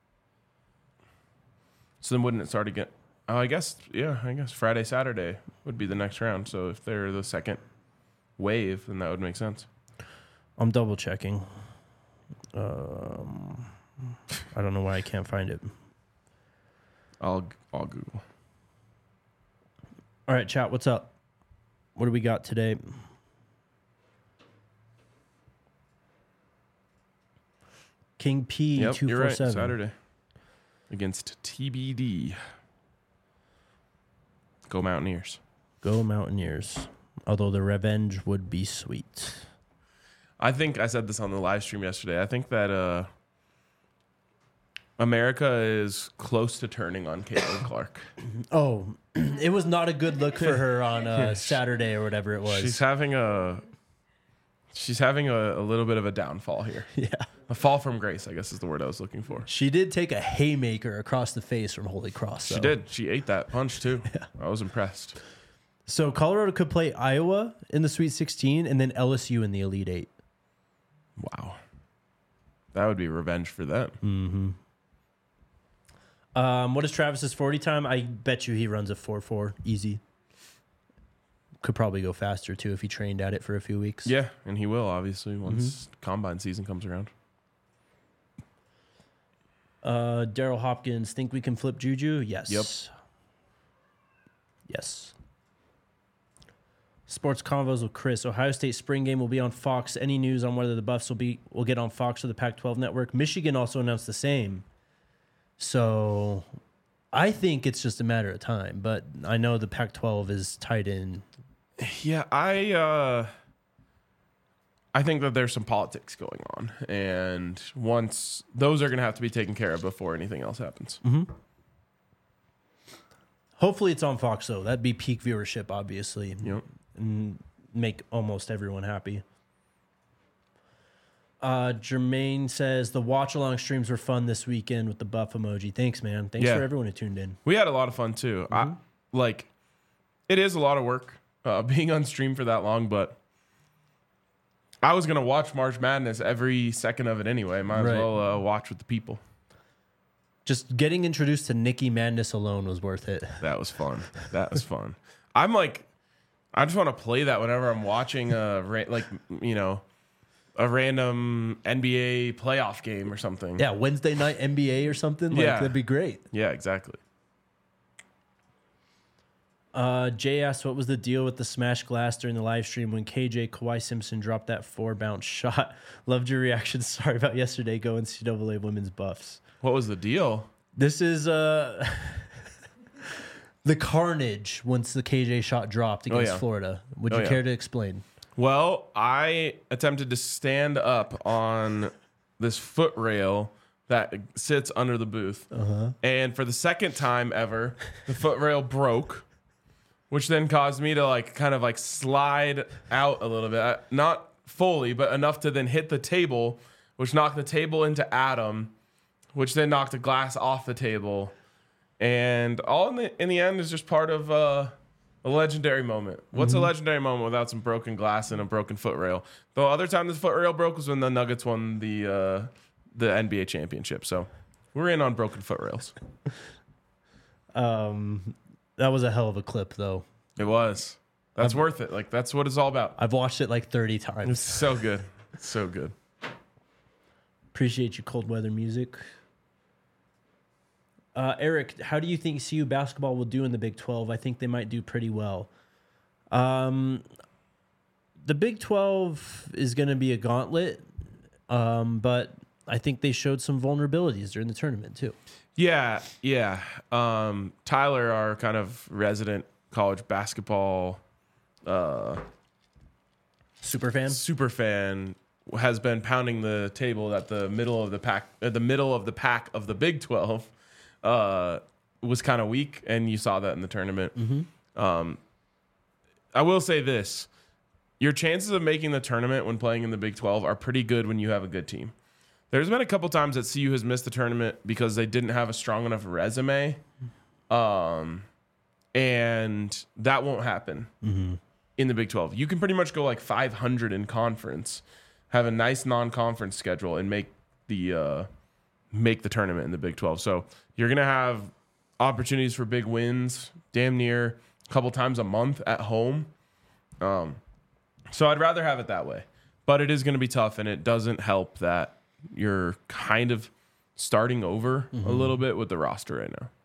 So then wouldn't it start again? Oh, I guess, yeah, I guess Friday, Saturday would be the next round. So if they're the second wave, then that would make sense. I'm double checking. Um, I don't know why I can't find it. I'll I'll Google. All right, chat, what's up? What do we got today? King P Yep, two you're four right. seven. Saturday against T B D. Go Mountaineers. Go Mountaineers. Although the revenge would be sweet. I think I said this on the live stream yesterday. I think that uh, America is close to turning on Caitlin Clark. Oh, it was not a good look for her on uh, Saturday or whatever it was. She's having a she's having a, a little bit of a downfall here. Yeah. A fall from grace, I guess is the word I was looking for. She did take a haymaker across the face from Holy Cross. She though. did. She ate that punch too. I was impressed. So Colorado could play Iowa in the Sweet sixteen and then L S U in the Elite Eight. Wow. That would be revenge for them. Um, what is Travis's forty time? I bet you he runs a four four easy. Could probably go faster too if he trained at it for a few weeks. Yeah, and he will obviously once Mm-hmm. combine season comes around. Uh, Daryl Hopkins, think we can flip Juju? Yes. Yep. Yes. Sports Convos with Chris. Ohio State spring game will be on Fox. Any news on whether the Buffs will be will get on Fox or the Pac twelve network? Michigan also announced the same. So I think it's just a matter of time, but I know the Pac twelve is tied in. Yeah, I uh I think that there's some politics going on, and once those are going to have to be taken care of before anything else happens. Hopefully it's on Fox though. That'd be peak viewership, obviously. Yep. And make almost everyone happy. Uh, Jermaine says the watch along streams were fun this weekend with the buff emoji. Thanks, man. Thanks Yeah. for everyone who tuned in. We had a lot of fun too. I like it is a lot of work uh, being on stream for that long, but I was gonna watch March Madness every second of it anyway. Might as Right. well uh, watch with the people. Just getting introduced to Nikki Madness alone was worth it. That was fun. That was fun. I'm like, I just want to play that whenever I'm watching a ra- like you know a random N B A playoff game or something. Yeah, Wednesday night N B A or something. Like, Yeah. that'd be great. Yeah, exactly. Uh, Jay asked, what was the deal with the smash glass during the live stream when K J Kawhi Simpson dropped that four bounce shot? Loved your reaction. Sorry about yesterday. Go N C double A women's buffs. What was the deal? This is uh, the carnage once the K J shot dropped against yeah. Florida. Would Oh, you yeah. care to explain? Well, I attempted to stand up on this foot rail that sits under the booth. Uh-huh. And for the second time ever, the foot rail broke, which then caused me to like kind of like slide out a little bit. Uh, Not fully, but enough to then hit the table, which knocked the table into Adam, which then knocked the glass off the table. And all in the in the end is just part of uh, a legendary moment. What's a legendary moment without some broken glass and a broken foot rail? The other time this foot rail broke was when the Nuggets won the uh, the N B A championship. So we're in on broken foot rails. Um, that was a hell of a clip, though. It was. That's worth it. Like that's what it's all about. I've watched it like thirty It's times. so good. It's so good. Appreciate you, cold weather music. Uh, Eric, how do you think C U basketball will do in the Big twelve? I think they might do pretty well. Um, the Big twelve is going to be a gauntlet, um, but I think they showed some vulnerabilities during the tournament too. Yeah, yeah. Um, Tyler, our kind of resident college basketball uh, Super fan? super fan, has been pounding the table that the middle of the pack, uh, the middle of the pack of the Big twelve, uh, was kind of weak, and you saw that in the tournament. Mm-hmm. Um, I will say this: your chances of making the tournament when playing in the Big twelve are pretty good when you have a good team. There's been a couple times that C U has missed the tournament because they didn't have a strong enough resume, um, and that won't happen Mm-hmm. in the Big twelve. You can pretty much go like five hundred in conference, have a nice non-conference schedule, and make the uh, make the tournament in the Big twelve. So you're gonna have opportunities for big wins, damn near a couple times a month at home. Um, so I'd rather have it that way, but it is gonna be tough, and it doesn't help that you're kind of starting over Mm-hmm. a little bit with the roster right now.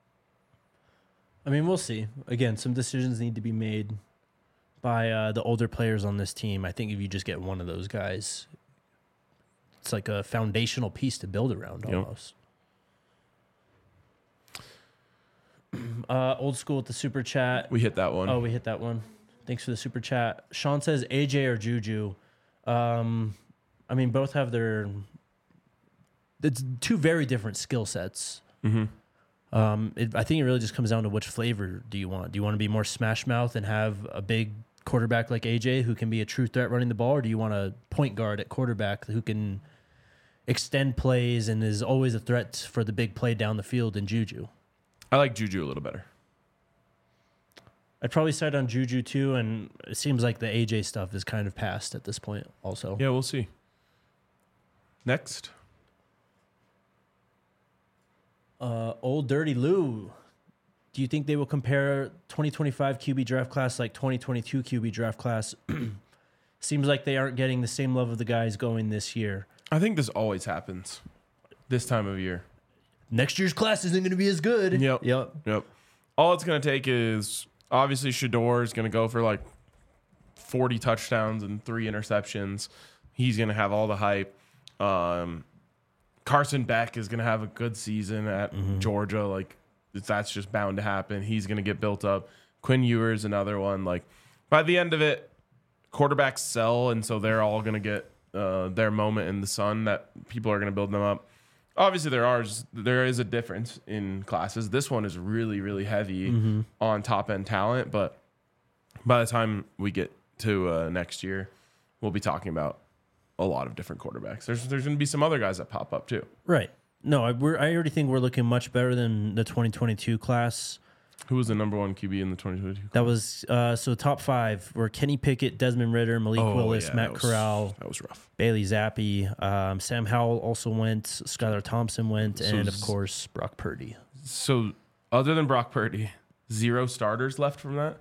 I mean, we'll see. Again, some decisions need to be made by uh, the older players on this team. I think if you just get one of those guys, it's like a foundational piece to build around Yep. almost. Uh, old school with the super chat. We hit that one. Oh, we hit that one. Thanks for the super chat. Sean says A J or Juju. Um, I mean, both have their. It's two very different skill sets. Mm-hmm. Um, it, I think it really just comes down to which flavor do you want. Do you want to be more smash mouth and have a big quarterback like A J who can be a true threat running the ball, or do you want a point guard at quarterback who can extend plays and is always a threat for the big play down the field in Juju? I like Juju a little better. I'd probably side on Juju too, and it seems like the A J stuff is kind of past at this point also. Yeah, we'll see. Next. Uh, old Dirty Lou, do you think they will compare twenty twenty-five Q B draft class like twenty twenty-two Q B draft class? Seems like they aren't getting the same love of the guys going this year. I think this always happens this time of year. Next year's class isn't going to be as good. Yep. Yep. Yep. All it's going to take is obviously Shador is going to go for like forty touchdowns and three interceptions. He's going to have all the hype. Um, Carson Beck is going to have a good season at Mm-hmm. Georgia. Like that's just bound to happen. He's going to get built up. Quinn Ewers, another one. Like by the end of it, quarterbacks sell, and so they're all going to get uh, their moment in the sun. That people are going to build them up. Obviously, there are there is a difference in classes. This one is really, really heavy Mm-hmm. on top end talent, but by the time we get to uh, next year, we'll be talking about a lot of different quarterbacks. There's there's going to be some other guys that pop up too. Right. No, I, we're, I already think we're looking much better than the twenty twenty-two class. Who was the number one Q B in the twenty twenty-two? That was uh, so top five were Kenny Pickett, Desmond Ritter, Malik Willis, yeah, Matt that was- Corral, That was rough. Bailey Zappi, um, Sam Howell also went, Skylar Thompson went, So and of z- course Brock Purdy. So other than Brock Purdy, zero starters left from that.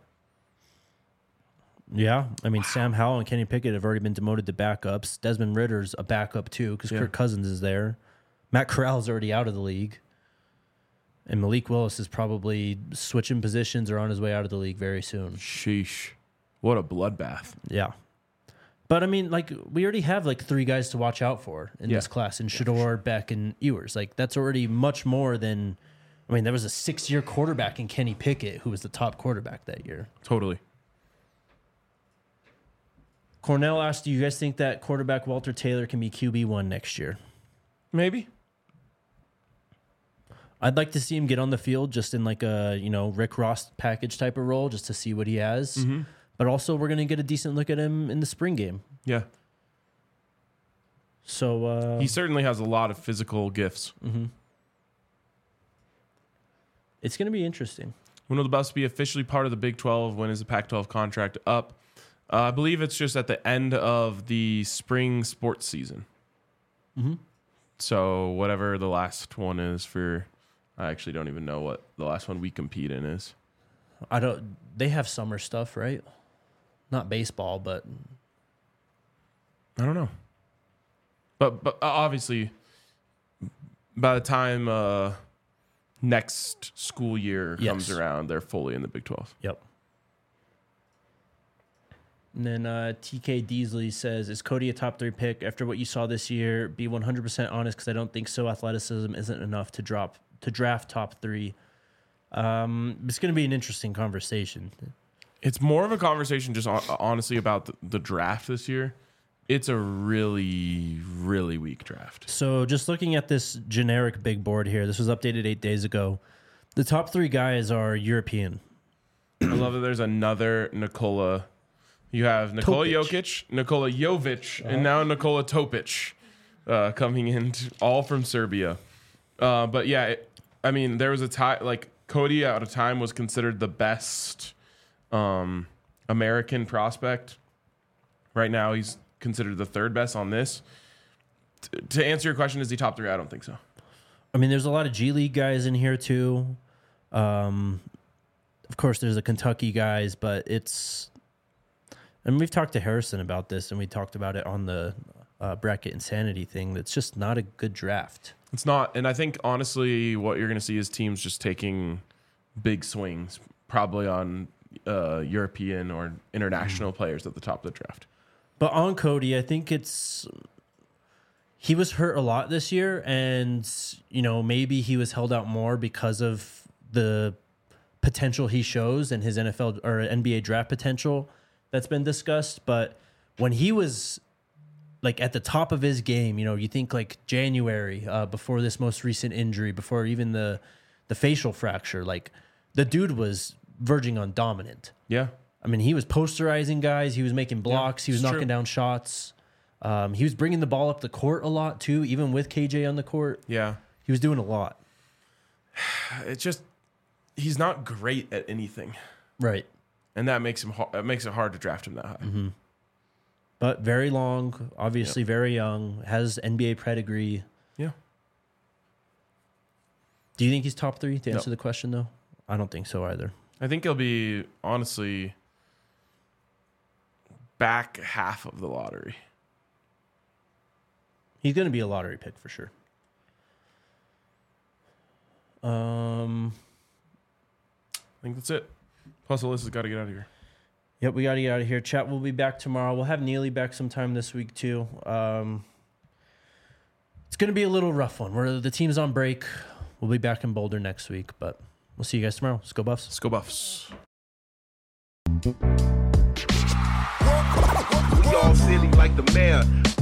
Yeah, I mean Sam Howell and Kenny Pickett have already been demoted to backups. Desmond Ritter's a backup too because Yeah. Kirk Cousins is there. Matt Corral's already out of the league, and Malik Willis is probably switching positions or on his way out of the league very soon. Sheesh, what a bloodbath! Yeah, but I mean, like we already have like three guys to watch out for in Yeah. this class: in Shador, Beck, and Ewers. Like that's already much more than. I mean, there was a six-year quarterback in Kenny Pickett who was the top quarterback that year. Totally. Cornell asked, "Do you guys think that quarterback Walter Taylor can be Q B one next year?" Maybe. I'd like to see him get on the field just in like a, you know, Rick Ross package type of role just to see what he has. Mm-hmm. But also we're going to get a decent look at him in the spring game. Yeah. So uh, He certainly has a lot of physical gifts. mhm. It's going to be interesting. When will the Buffs be officially part of the Big twelve? When is the Pac twelve contract up? Uh, I believe it's just at the end of the spring sports season. Mm-hmm. So whatever the last one is for, I actually don't even know what the last one we compete in is. I don't. They have summer stuff, right? Not baseball, but I don't know. But but obviously, by the time uh, next school year comes Yes. around, they're fully in the Big twelve. Yep. And then uh, T K Deasley says, is Cody a top three pick after what you saw this year? Be one hundred percent honest because I don't think so. Athleticism isn't enough to drop to draft top three. Um, it's going to be an interesting conversation. It's more of a conversation just hon- honestly about the, the draft this year. It's a really, really weak draft. So just looking at this generic big board here, this was updated eight days ago. The top three guys are European. I love that there's another Nikola. You have Nikola Topic. Jokic, Nikola Jovic, and now Nikola Topic uh, coming in, t- all from Serbia. Uh, but yeah, it, I mean, there was a time, like Cody at a time was considered the best um, American prospect. Right now, he's considered the third best on this. T- to answer your question, is he top three? I don't think so. I mean, there's a lot of G League guys in here too. Um, of course, there's the Kentucky guys, but it's... And we've talked to Harrison about this, and we talked about it on the uh, bracket insanity thing. That's just not a good draft. It's not, and I think honestly, what you're going to see is teams just taking big swings, probably on uh, European or international players at the top of the draft. But on Cody, I think it's he was hurt a lot this year, and you know maybe he was held out more because of the potential he shows and his N F L or N B A draft potential that's been discussed. But when he was like at the top of his game, you know, you think like January uh, before this most recent injury, before even the the facial fracture, like the dude was verging on dominant. Yeah. I mean, he was posterizing guys. He was making blocks. Yeah, he was it's knocking true. down shots. Um, he was bringing the ball up the court a lot too, even with K J on the court. Yeah. He was doing a lot. It's just, he's not great at anything. Right. And that makes him, that makes it hard to draft him that high. Mm-hmm. But very long, obviously Yep. very young, has N B A pedigree. Yeah. Do you think he's top three to No. answer the question, though? I don't think so either. I think he'll be, honestly, back half of the lottery. He's going to be a lottery pick for sure. Um, I think that's it. Plus, Alyssa's got to get out of here. Yep, we got to get out of here. Chat will be back tomorrow. We'll have Neely back sometime this week, too. Um, it's going to be a little rough one. We're, the team's on break. We'll be back in Boulder next week, but we'll see you guys tomorrow. Let's go Buffs. Let's go Buffs. We all silly like the mayor.